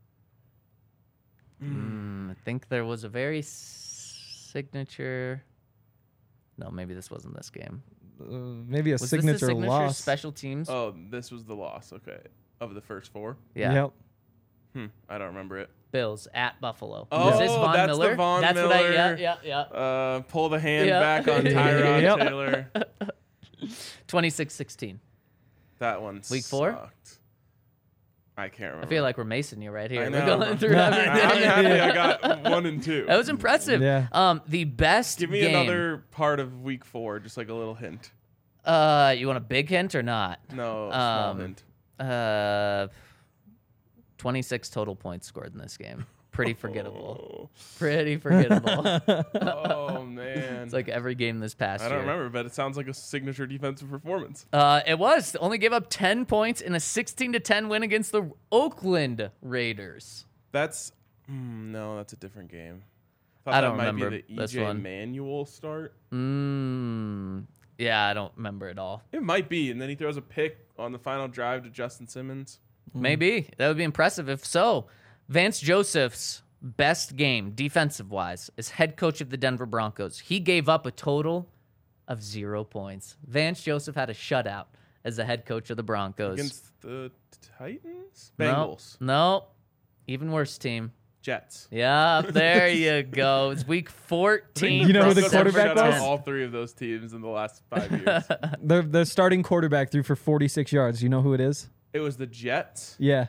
Mm, I think there was a very s- signature. No, maybe this wasn't this game. Uh, maybe a Was signature, this the signature loss. special teams? Oh, this was the loss. Okay, of the first four. yeah. Yep. Hmm, I don't remember it. Bills at Buffalo. Oh, Was this Von that's the Miller? Von that's what I. Yeah, Miller. yeah, yeah. Uh, pull the hand Yeah. back on Tyrod Yep. Taylor. twenty-six sixteen. That one. Week four? sucked. I can't remember. I feel like we're macing you right here. I We're know. going through I'm everything. happy I got one and two. That was impressive. Yeah. Um, the best Give me game. another part of week four, just like a little hint. Uh, you want a big hint or not? No, small Um, hint. Uh, twenty-six total points scored in this game. pretty forgettable. Pretty forgettable. Oh man, It's like every game this past I don't year. remember, but it sounds like a signature defensive performance. Uh, it was. Only gave up ten points in a sixteen to ten win against the Oakland Raiders. That's mm, no, that's a different game. Thought I that don't might remember be the this E J one. Manuel start. Mm, yeah, I don't remember it all. It might be, and then he throws a pick on the final drive to Justin Simmons. Maybe. That would be impressive if so. Vance Joseph's best game, defensive-wise, as head coach of the Denver Broncos. He gave up a total of zero points. Vance Joseph had a shutout as the head coach of the Broncos. Against the Titans? No, Bengals. No. Even worse team. Jets. Yeah, there you go. It's week fourteen. You know who the Broncos have quarterback shut out was? all three of those teams in the last five years. The the starting quarterback threw for forty-six yards. You know who it is? It was the Jets. Yeah.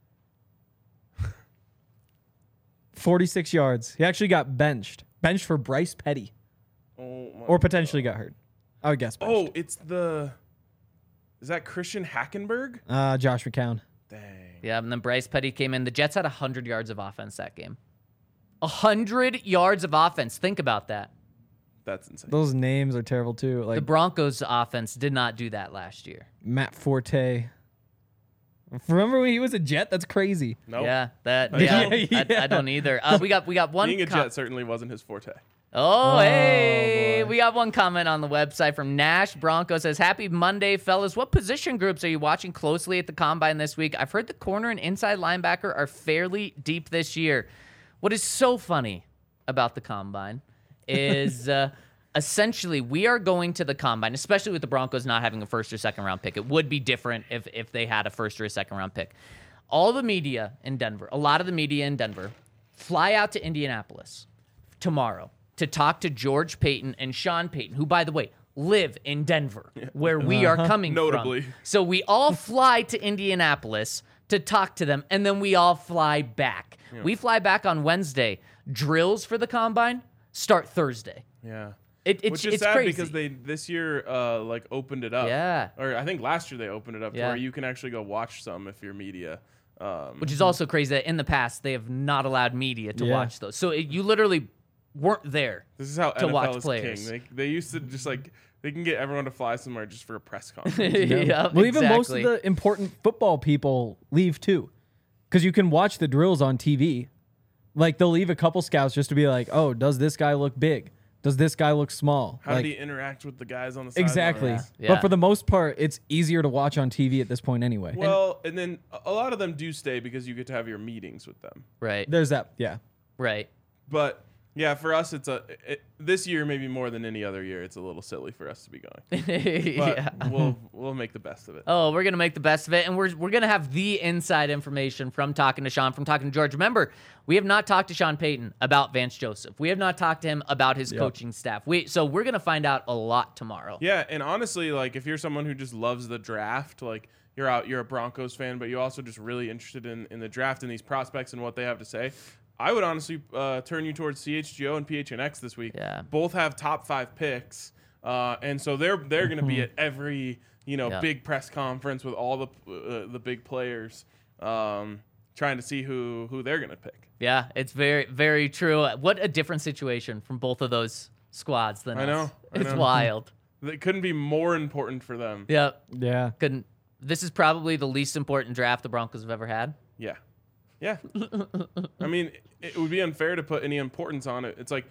forty-six yards. He actually got benched. Benched for Bryce Petty. Oh my Or potentially got hurt. I would guess benched. Oh, it's the. Is that Christian Hackenberg? Uh, Josh McCown. Dang. Yeah, and then Bryce Petty came in. The Jets had one hundred yards of offense that game. one hundred yards of offense. Think about that. That's insane. Those names are terrible too. Like The Broncos offense did not do that last year. Matt Forte. Remember when he was a Jet? That's crazy. Nope. Yeah, that Yeah, yeah, I, I don't either. Uh, we got we got one Being a com- Jet certainly wasn't his forte. Oh, hey, boy. we got one comment on the website from Nash Bronco says, "Happy Monday, fellas. What position groups are you watching closely at the combine this week? I've heard the corner and inside linebacker are fairly deep this year. What is so funny about the combine is uh, essentially we are going to the combine, especially with the Broncos not having a first or second round pick. It would be different if if they had a first or a second round pick. All the media in Denver, a lot of the media in Denver, fly out to Indianapolis tomorrow to talk to George Payton and Sean Payton, who, by the way, live in Denver, where we are coming Notably. from. So we all fly to Indianapolis to talk to them, and then we all fly back. We fly back on Wednesday. Drills for the combine start Thursday. Yeah. It, it's Which is it's sad crazy. because they this year uh like opened it up. Yeah. Or I think last year they opened it up Yeah. to where you can actually go watch some if you're media. Um, Which is also crazy that in the past they have not allowed media to Yeah. watch those. So it, you literally weren't there. this is how to N F L watch is players. king. They they used to just like they can get everyone to fly somewhere just for a press conference. yeah, Well, even most of exactly. the important football people leave too, because you can watch the drills on T V. Like they'll leave a couple scouts just to be like, "Oh, does this guy look big? Does this guy look small?" How like, did he interact with the guys on the exactly. sidelines? Yeah. But for the most part, it's easier to watch on T V at this point anyway. Well, and then a- a lot of them do stay because you get to have your meetings with them. Right, There's that. Yeah. right. But yeah, for us, it's a it, this year maybe more than any other year. It's a little silly for us to be going, but yeah. we'll we'll make the best of it. Oh, we're gonna make the best of it, and we're we're gonna have the inside information from talking to Sean, from talking to George. Remember, we have not talked to Sean Payton about Vance Joseph. We have not talked to him about his coaching staff. We so we're gonna find out a lot tomorrow. Yeah, and honestly, like if you're someone who just loves the draft, like you're out, you're a Broncos fan, but you're also just really interested in in the draft and these prospects and what they have to say. I would honestly uh, turn you towards C H G O and P H N X this week. Yeah. Both have top five picks, uh, and so they're they're going to be at every you know Yeah. big press conference with all the uh, the big players, um, trying to see who who they're going to pick. Yeah, it's very very true. What a different situation from both of those squads than I us. know, I It's know. wild. It couldn't be more important for them. Yep. Yeah. Couldn't. This is probably the least important draft the Broncos have ever had. Yeah. Yeah. I mean, it would be unfair to put any importance on it. It's like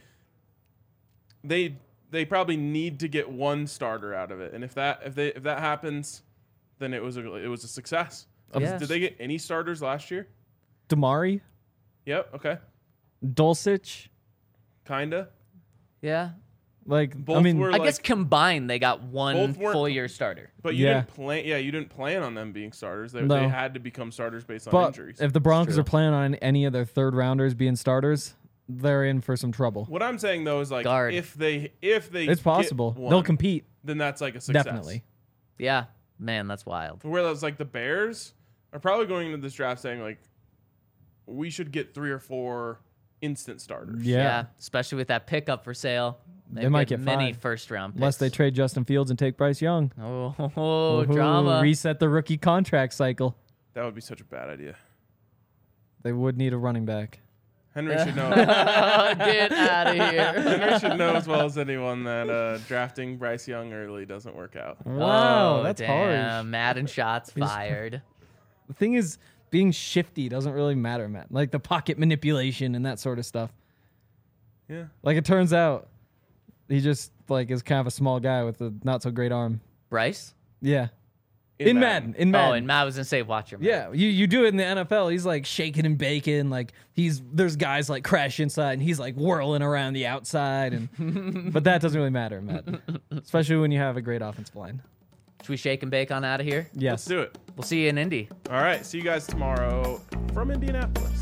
they they probably need to get one starter out of it. And if that if they if that happens, then it was a it was a success. Um, Yes. Did they get any starters last year? Damari, Yep, okay. Dulcich. Kinda. Yeah. Like Both I mean, were I like, guess combined they got one Both weren't- full year starter. but you Yeah. didn't plan yeah, you didn't plan on them being starters. They, No. they had to become starters based on but injuries. if the Broncos true. are planning on any of their third rounders being starters, they're in for some trouble. What I'm saying though is like Guard. if they if they It's get possible. one, They'll compete. then that's like a success. Definitely. Yeah. Man, that's wild. Whereas like the Bears are probably going into this draft saying like we should get three or four instant starters. Yeah. Especially with that pickup for sale. They might get many five. first round picks. Unless they trade Justin Fields and take Bryce Young. Oh, oh, oh, Ooh, drama. Reset the rookie contract cycle. That would be such a bad idea. They would need a running back. Henry should know. Get out of here. Henry should know as well as anyone that uh, drafting Bryce Young early doesn't work out. Wow, Oh, that's damn. harsh. Madden shots fired. The thing is, being shifty doesn't really matter, Matt. Like the pocket manipulation and that sort of stuff. Yeah. Like it turns out, he just like is kind of a small guy with a not so great arm. Bryce? Yeah. In In, Madden. Madden. In Madden. Oh, and Matt was gonna say, watch your mouth. Yeah, you, you do it in the N F L. He's like shaking and baking. Like he's there's guys like crash inside, and he's like whirling around the outside. And but that doesn't really matter, Matt. Especially when you have a great offensive line. Should we shake and bake on out of here? Yes. Let's do it. We'll see you in Indy. All right. See you guys tomorrow from Indianapolis.